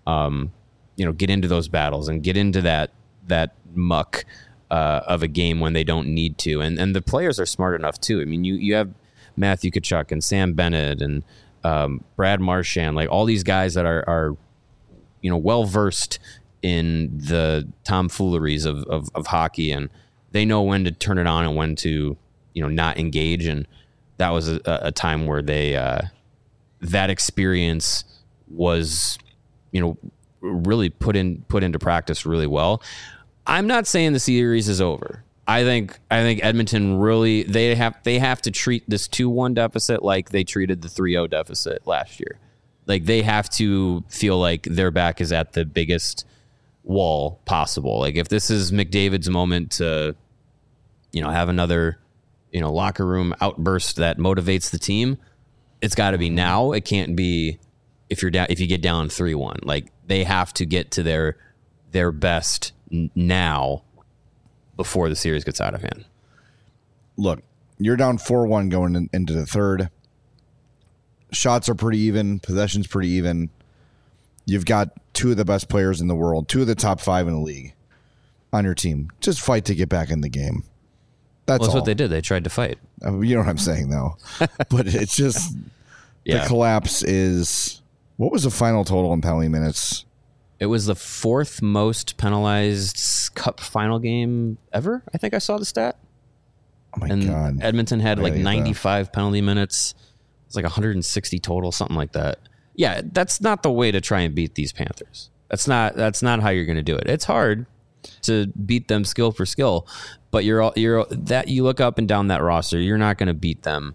battles and get into that muck of a game when they don't need to. And the players are smart enough too. I mean, you have Matthew Tkachuk and Sam Bennett and Brad Marchand, like all these guys that are well versed in the tomfooleries of hockey, and they know when to turn it on and when to not engage. And that was a time where they that experience was really put into practice really well. I'm not saying the series is over. I think Edmonton really they have to treat this 2-1 deficit like they treated the 3-0 deficit last year. Like they have to feel like their back is at the biggest wall possible. Like if this is McDavid's moment to have another locker room outburst that motivates the team, it's got to be now. It can't be if you get down 3-1. Like they have to get to their best now before the series gets out of hand. Look, you're down 4-1 going into the third. Shots are pretty even. Possession's pretty even. You've got two of the best players in the world, two of the top 5 in the league on your team. Just fight to get back in the game. That's what they did. They tried to fight. You know what I'm saying, though. But it's just the collapse is... What was the final total in penalty minutes? It was the 4th most penalized Cup final game ever. I think I saw the stat. Oh, my God. Edmonton had 95 penalty minutes. It's like 160 total, something like that. Yeah, that's not the way to try and beat these Panthers. That's not how you're going to do it. It's hard to beat them skill for skill, but you look up and down that roster, you're not going to beat them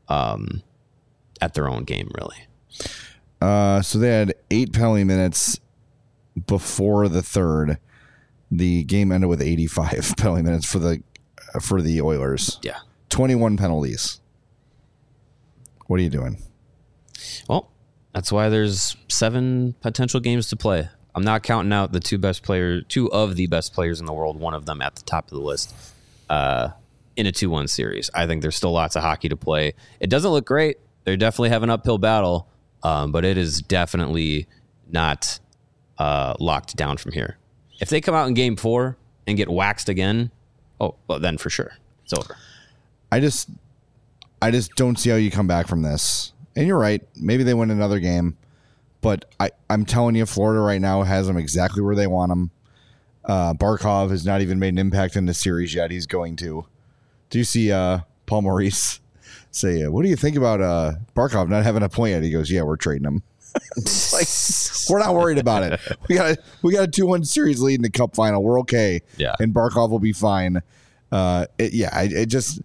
at their own game, really. So they had 8 penalty minutes before the third. The game ended with 85 penalty minutes for the Oilers. Yeah, 21 penalties. What are you doing? Well, that's why there's 7 potential games to play. I'm not counting out the two of the best players in the world, one of them at the top of the list, in a 2-1 series. I think there's still lots of hockey to play. It doesn't look great. They definitely have an uphill battle, but it is definitely not locked down from here. If they come out in game 4 and get waxed again, then for sure, it's over. I just don't see how you come back from this. And you're right. Maybe they win another game. But I'm telling you, Florida right now has them exactly where they want them. Barkov has not even made an impact in the series yet. He's going to. Do you see Paul Maurice say, what do you think about Barkov not having a point yet? He goes, yeah, we're trading him. Like, we're not worried about it. We got a 2-1 series lead in the Cup final. We're okay. Yeah. And Barkov will be fine. It just...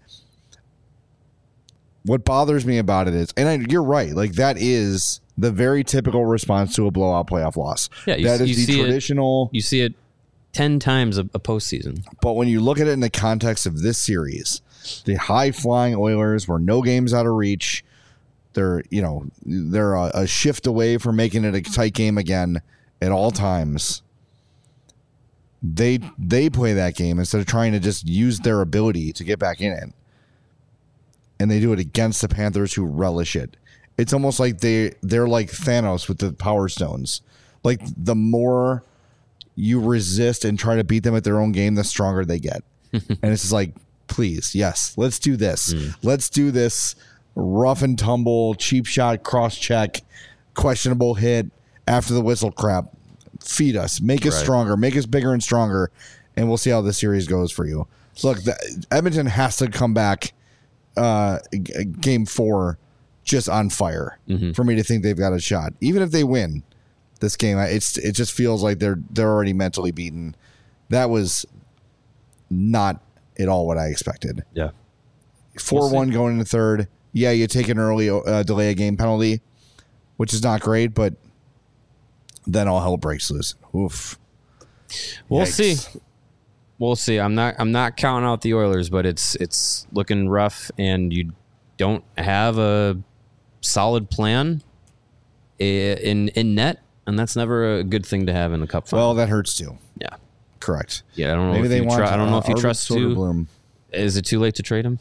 What bothers me about it is, and you're right, like that is the very typical response to a blowout playoff loss. Yeah, that is the traditional. You see it 10 times a postseason. But when you look at it in the context of this series, the high-flying Oilers were no games out of reach. They're a shift away from making it a tight game again at all times. They play that game instead of trying to just use their ability to get back in it. And they do it against the Panthers, who relish it. It's almost like they're like Thanos with the Power Stones. Like the more you resist and try to beat them at their own game, the stronger they get. And it's just like, please, yes, let's do this. Let's do this rough and tumble, cheap shot, cross check, questionable hit after the whistle crap. Feed us, make us stronger, make us bigger and stronger, and we'll see how this series goes for you. Look, Edmonton has to come back game 4 just on fire for me to think they've got a shot. Even if they win this game, it just feels like they're already mentally beaten. That was not at all what I expected. Yeah. 4-1 going into third. Yeah, you take an early delay of game penalty, which is not great, but then all hell breaks loose. Oof. We'll see. We'll see. I'm not counting out the Oilers, but it's looking rough, and you don't have a solid plan in net, and that's never a good thing to have in the Cup final. Well, that hurts too. Yeah. Correct. Yeah, I don't know. Maybe I don't know if you trust Soderblom. Is it too late to trade him?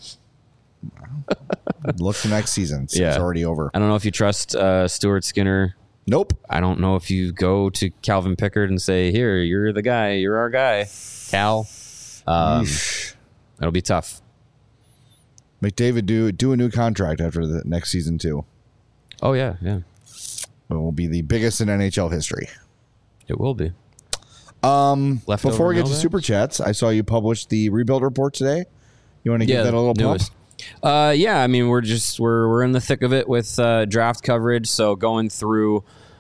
Look for next season. It's already over. I don't know if you trust Stuart Skinner. Nope. I don't know if you go to Calvin Pickard and say, "Here, you're the guy. You're our guy, Cal." It'll be tough. McDavid do a new contract after the next season too. Oh yeah. It will be the biggest in NHL history. It will be. Before we get to super chats, I saw you published the rebuild report today. You want to give that a little pump? Yeah, I mean we're in the thick of it with draft coverage, so going through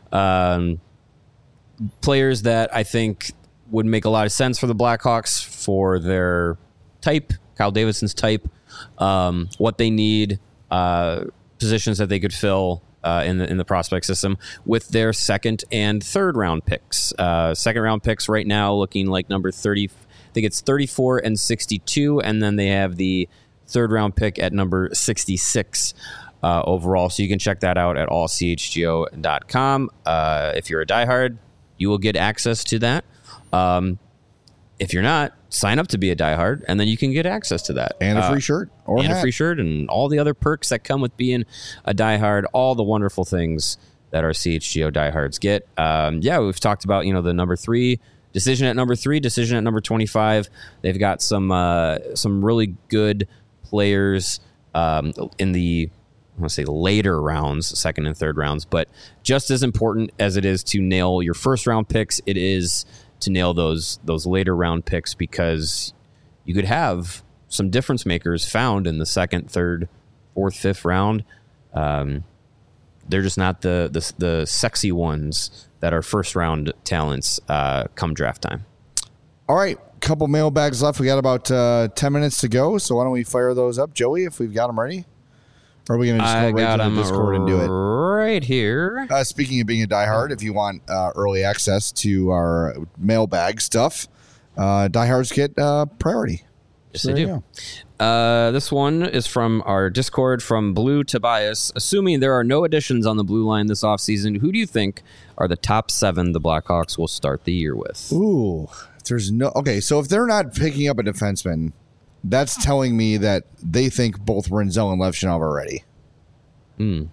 players that I think would make a lot of sense for the Blackhawks for their type, Kyle Davidson's type, what they need, positions that they could fill in the prospect system with their second and third round picks. Second round picks right now looking like number 30. I think it's 34 and 62, and then they have the third round pick at number 66 overall. So you can check that out at allchgo.com. If you're a diehard, you will get access to that. If you're not, sign up to be a diehard, and then you can get access to that. And a free shirt. And a free shirt, and all the other perks that come with being a diehard, all the wonderful things that our CHGO diehards get. We've talked about, the number 3, decision at number 3, decision at number 25. They've got some really good players in the, I want to say later rounds, second and third rounds, but just as important as it is to nail your first round picks, it is to nail those later round picks, because you could have some difference makers found in the second, third, fourth, fifth round. They're just not the sexy ones that are first round talents come draft time. All right, couple mailbags left. We got about 10 minutes to go, so why don't we fire those up, Joey, if we've got them ready? Or are we going to just go right to the Discord and do it? Right here. Speaking of being a diehard, if you want early access to our mailbag stuff, diehards get priority. Yes, they do. This one is from our Discord from Blue Tobias. Assuming there are no additions on the blue line this offseason, who do you think are the top 7 the Blackhawks will start the year with? Ooh, so if they're not picking up a defenseman, that's telling me that they think both Rinzel and Levchinov are ready. You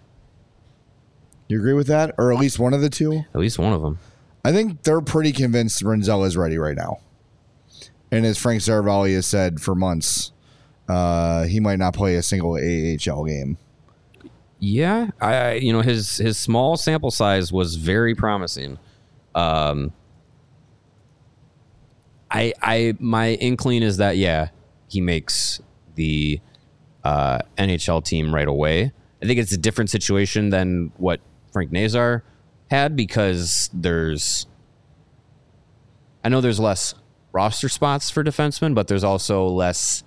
agree with that? Or at least one of the two? At least one of them. I think they're pretty convinced Rinzel is ready right now. And as Frank Saravalli has said for months, he might not play a single AHL game. Yeah, his small sample size was very promising. My inkling is that he makes the NHL team right away. I think it's a different situation than what Frank Nazar had, because there's less roster spots for defensemen, but there's also less,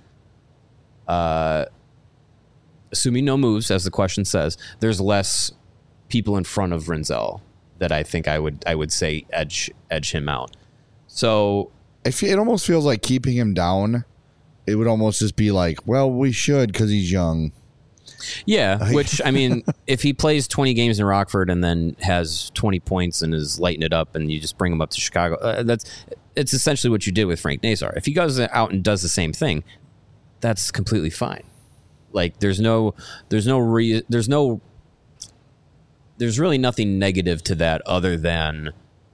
assuming no moves, as the question says, there's less people in front of Rinzel that I think I would say edge him out. So it almost feels like keeping him down, it would almost just be like, well, we should because he's young. Yeah, which, I mean, if he plays 20 games in Rockford and then has 20 points and is lighting it up and you just bring him up to Chicago, it's essentially what you did with Frank Nazar. If he goes out and does the same thing, that's completely fine. Like, there's really nothing negative to that other than,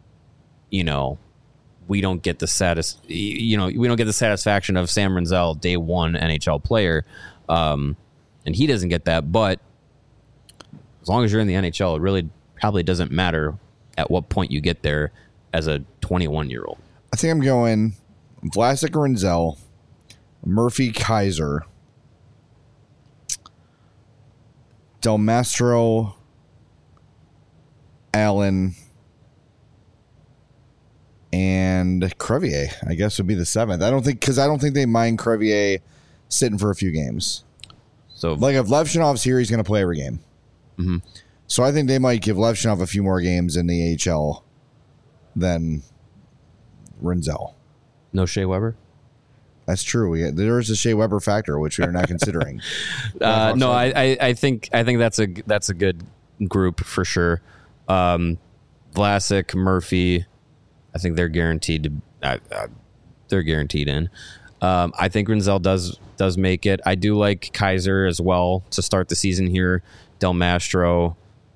we don't get the satisfaction of Sam Rinzel, day one NHL player. And he doesn't get that, but as long as you're in the NHL, it really probably doesn't matter at what point you get there as a 21-year-old. I think I'm going Vlasic Rinzel, Murphy Kaiser, Del Mastro, Allen, and Crevier, I guess, would be the 7th. I don't think they mind Crevier sitting for a few games. So like if Levshinov's here, he's going to play every game. Mm-hmm. So I think they might give Levshinov a few more games in the AHL than Rinzel. no Shea Weber. That's true. There is a Shea Weber factor, which we are not considering. No, I think that's a good group for sure. Vlasic, Murphy, I think they're guaranteed to. They're guaranteed in. I think Rinzel does make it. I do like Kaiser as well to start the season here. Del Mastro.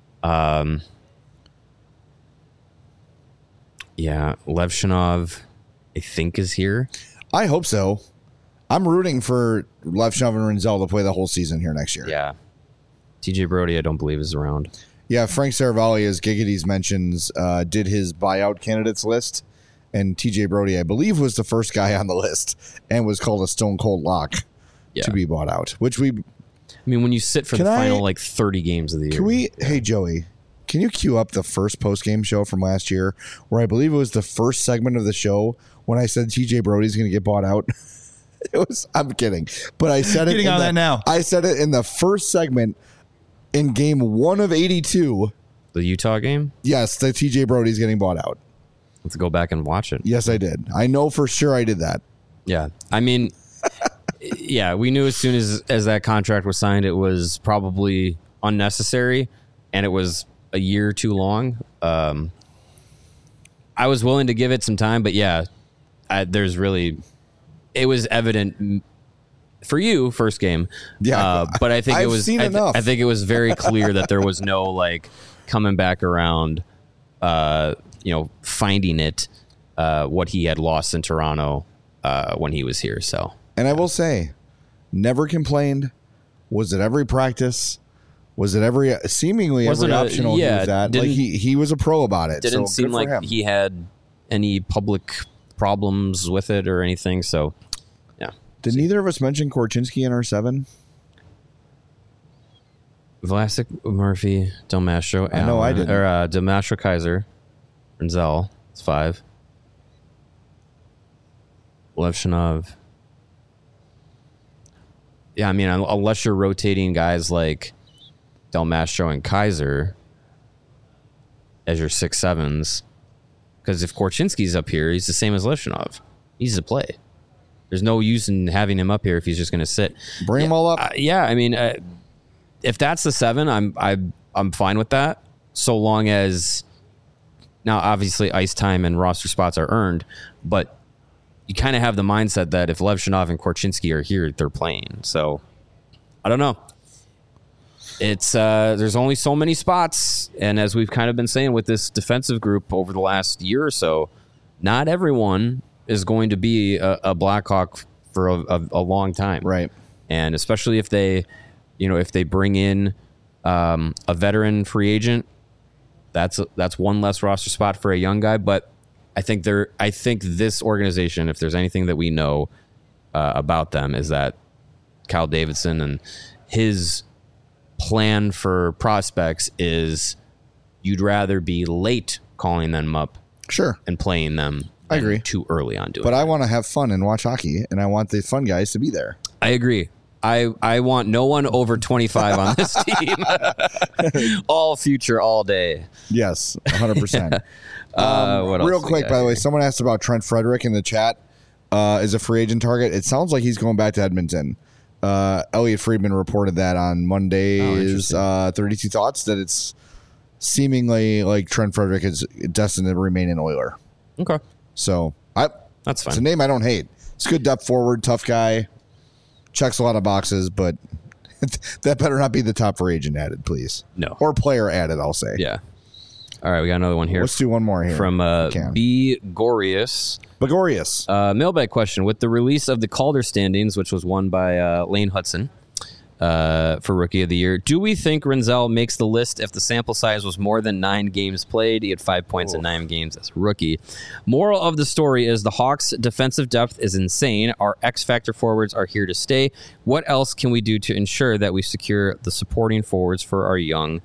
Levshinov, I think, is here. I hope so. I'm rooting for Levshinov and Rinzel to play the whole season here next year. Yeah. TJ Brody, I don't believe, is around. Yeah, Frank Saravalli, as Gigady's mentions, did his buyout candidates list, and TJ Brody, I believe, was the first guy on the list and was called a stone cold lock to be bought out. Which I mean, when you sit for the final 30 games of the year. Hey, Joey, can you cue up the first post-game show from last year where I believe it was the first segment of the show when I said TJ Brody's going to get bought out? I'm kidding, but I said it. That now. I said it in the first segment in game 1 of 82. The Utah game? Yes, the TJ Brody's getting bought out. Let's go back and watch it. Yes, I did. I know for sure I did that. Yeah. I mean, yeah, we knew as soon as that contract was signed, it was probably unnecessary and it was a year too long. I was willing to give it some time, but yeah, it was evident for you first game. Yeah. But I think I've it was, seen enough. I think it was very clear that there was no coming back around, finding it, what he had lost in Toronto, when he was here. So, and I will say, never complained. Was at every practice. Was it seemingly every optional? Yeah, he was at. He was a pro about it. Didn't so seem like he had any public problems with it or anything. So, yeah. Did neither of us mention Korchinski in our 7? Vlasic, Murphy, Del Mastro, I know I didn't. Or Del Mastro, Kaiser, Rinzel. It's 5. Levshinov. Yeah, I mean, unless you're rotating guys like Del Mastro and Kaiser as your 6-7s, because if Korchinski's up here, he's the same as Levshinov. He's to play. There's no use in having him up here if he's just going to sit. Bring them all up. I mean, if that's the 7, I'm fine with that. So long as now, obviously, ice time and roster spots are earned, but you kind of have the mindset that if Levshinov and Korchinski are here, they're playing. So I don't know. It's there's only so many spots, and as we've kind of been saying with this defensive group over the last year or so, not everyone is going to be a Blackhawk for a long time, right? And especially if they bring in a veteran free agent, that's one less roster spot for a young guy. But I think this organization, if there's anything that we know about them, is that Kyle Davidson and his plan for prospects is you'd rather be late calling them up, sure, and playing them. I agree. Too early on doing. But I want to have fun and watch hockey, and I want the fun guys to be there. I agree. I want no one over 25 on this team. All future, all day. Yes, 100%. Real quick, by the way, someone asked about Trent Frederick in the chat. Is a free agent target? It sounds like he's going back to Edmonton. Elliot Friedman reported that on Monday's 32 Thoughts, that it's seemingly like Trent Frederick is destined to remain an Oiler. Okay. So that's fine. It's a name I don't hate. It's a good depth forward, tough guy, checks a lot of boxes, but that better not be the top free agent added, please. No. Or player added, I'll say. Yeah. All right, we got another one here. Let's do one more here. From B. Gorius. Mailbag question. With the release of the Calder standings, which was won by Lane Hudson for Rookie of the Year, do we think Rinzel makes the list if the sample size was more than 9 games played? He had 5 points in 9 games as a rookie. Moral of the story is the Hawks' defensive depth is insane. Our X-Factor forwards are here to stay. What else can we do to ensure that we secure the supporting forwards for our young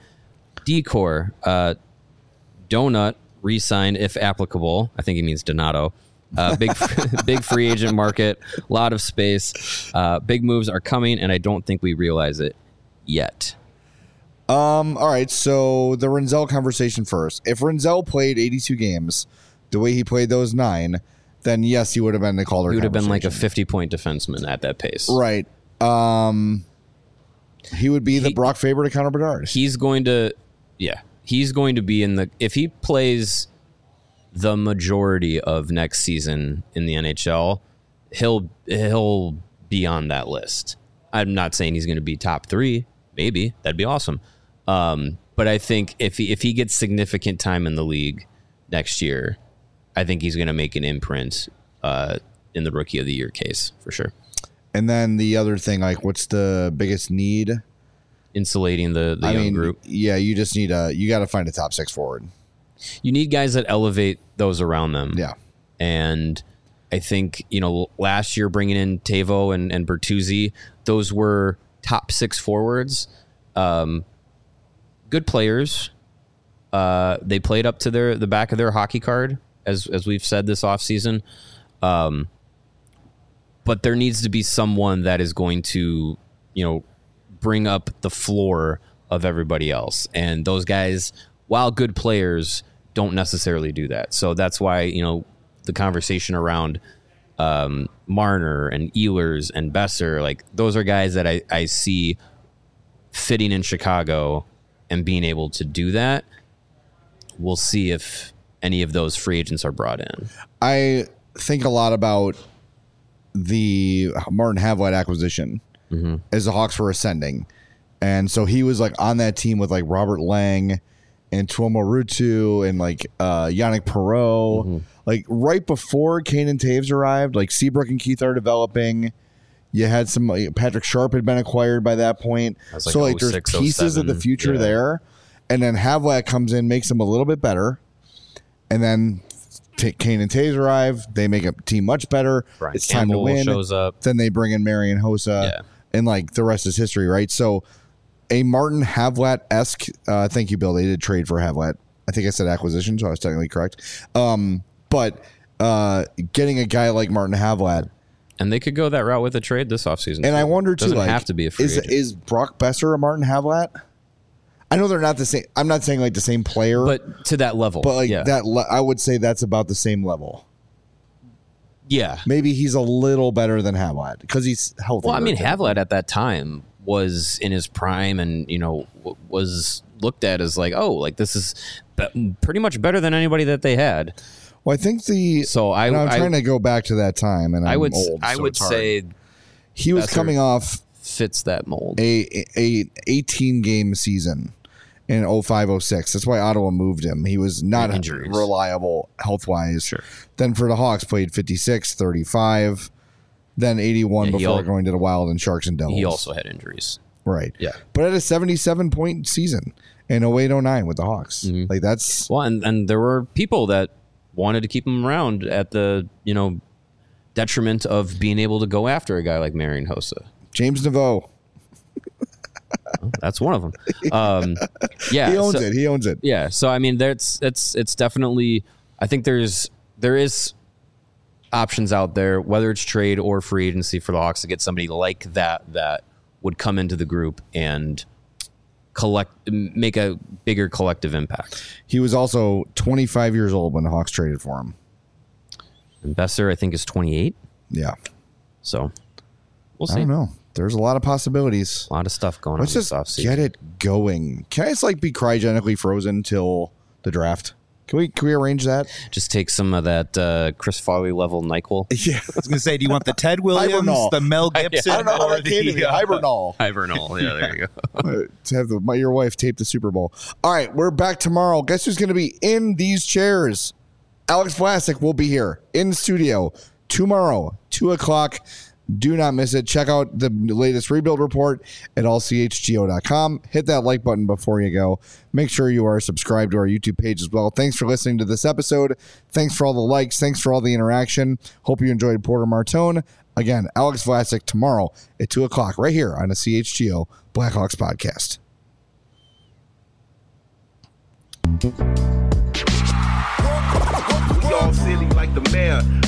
decor? Donut, re-sign if applicable. I think he means Donato. Big free agent market, a lot of space. Big moves are coming, and I don't think we realize it yet. All right, so the Renzel conversation first. If Renzel played 82 games the way he played those 9, then yes, he would have been the Calder. He would have been like a 50-point defenseman at that pace. Right. He would be the Brock Faber to Connor Bedard. He's going to be in the, if he plays the majority of next season in the NHL, he'll be on that list. I'm not saying he's going to be top 3. Maybe that'd be awesome. But I think if he gets significant time in the league next year, I think he's going to make an imprint in the Rookie of the Year case for sure. And then the other thing, like, what's the biggest need? Insulating the young group. Yeah, you just need you got to find a top 6 forward. You need guys that elevate those around them. Yeah. And I think, last year bringing in Teuvo and Bertuzzi, those were top 6 forwards. Good players. They played up to the back of their hockey card, as we've said this offseason. But there needs to be someone that is going to, bring up the floor of everybody else. And those guys, while good players, don't necessarily do that. So that's why, the conversation around Marner and Ehlers and Besser, like, those are guys that I see fitting in Chicago and being able to do that. We'll see if any of those free agents are brought in. I think a lot about the Martin Havlat acquisition as the Hawks were ascending. And so he was like on that team with like Robert Lang and Tuomo Ruutu and like Yannick Perreault. Like right before Kane and Taves arrived, like Seabrook and Keith are developing. You had some Patrick Sharp had been acquired by that point. Like so like there's pieces of the future there. And then Havlat comes in, makes them a little bit better. And then Kane and Taves arrive. They make a team much better. Brian it's time Campbell to win. Shows up. Then they bring in Marian Hossa. And like the rest is history, right? So a Martin Havlat-esque, thank you, Bill. They did trade for Havlat. I think I said acquisition, so I was technically correct. But getting a guy like Martin Havlat. And they could go that route with a trade this offseason. And I wonder, too, doesn't have to be a free agent. Is Brock Besser a Martin Havlat? I know they're not the same. I'm not saying like the same player. But to that level. But like I would say that's about the same level. Yeah. Maybe he's a little better than Havlat because he's healthy. Well, I mean, Havlat at that time was in his prime and, was looked at as like, oh, like this is pretty much better than anybody that they had. Well, I think I'm trying to go back to that time, and I would say he was coming off fits that mold. A 18-game season in 05-06. That's why Ottawa moved him. He was not reliable health-wise. Sure. Then for the Hawks, played 56, 35, then 81 before going to the Wild and Sharks and Devils. He also had injuries. Right. Yeah. But at a 77-point season in 08-09 with the Hawks. Like that's... Well, and there were people that wanted to keep him around at the, detriment of being able to go after a guy like Marian Hossa. James Neveau. Well, that's one of them. Yeah, he owns it. Yeah, so I mean, it's definitely. I think there is options out there, whether it's trade or free agency for the Hawks to get somebody like that would come into the group and make a bigger collective impact. He was also 25 years old when the Hawks traded for him. And Besser, I think, is 28. Yeah. So we'll see. I don't know. There's a lot of possibilities. A lot of stuff going on. Let's just get it going. Can I just be cryogenically frozen till the draft? Can we arrange that? Just take some of that Chris Farley level NyQuil. Yeah, I was going to say, do you want the Ted Williams, the Mel Gibson, I don't know or the Hibernal? Hibernal. Yeah, there you go. To have your wife tape the Super Bowl. All right, we're back tomorrow. Guess who's going to be in these chairs? Alex Vlasic will be here in studio tomorrow, 2:00. Do not miss it. Check out the latest rebuild report at allchgo.com. Hit that like button before you go. Make sure you are subscribed to our YouTube page as well. Thanks for listening to this episode. Thanks for all the likes. Thanks for all the interaction. Hope you enjoyed Porter Martone. Again, Alex Vlasic tomorrow at 2:00 right here on the CHGO Blackhawks podcast. We all silly like the mayor.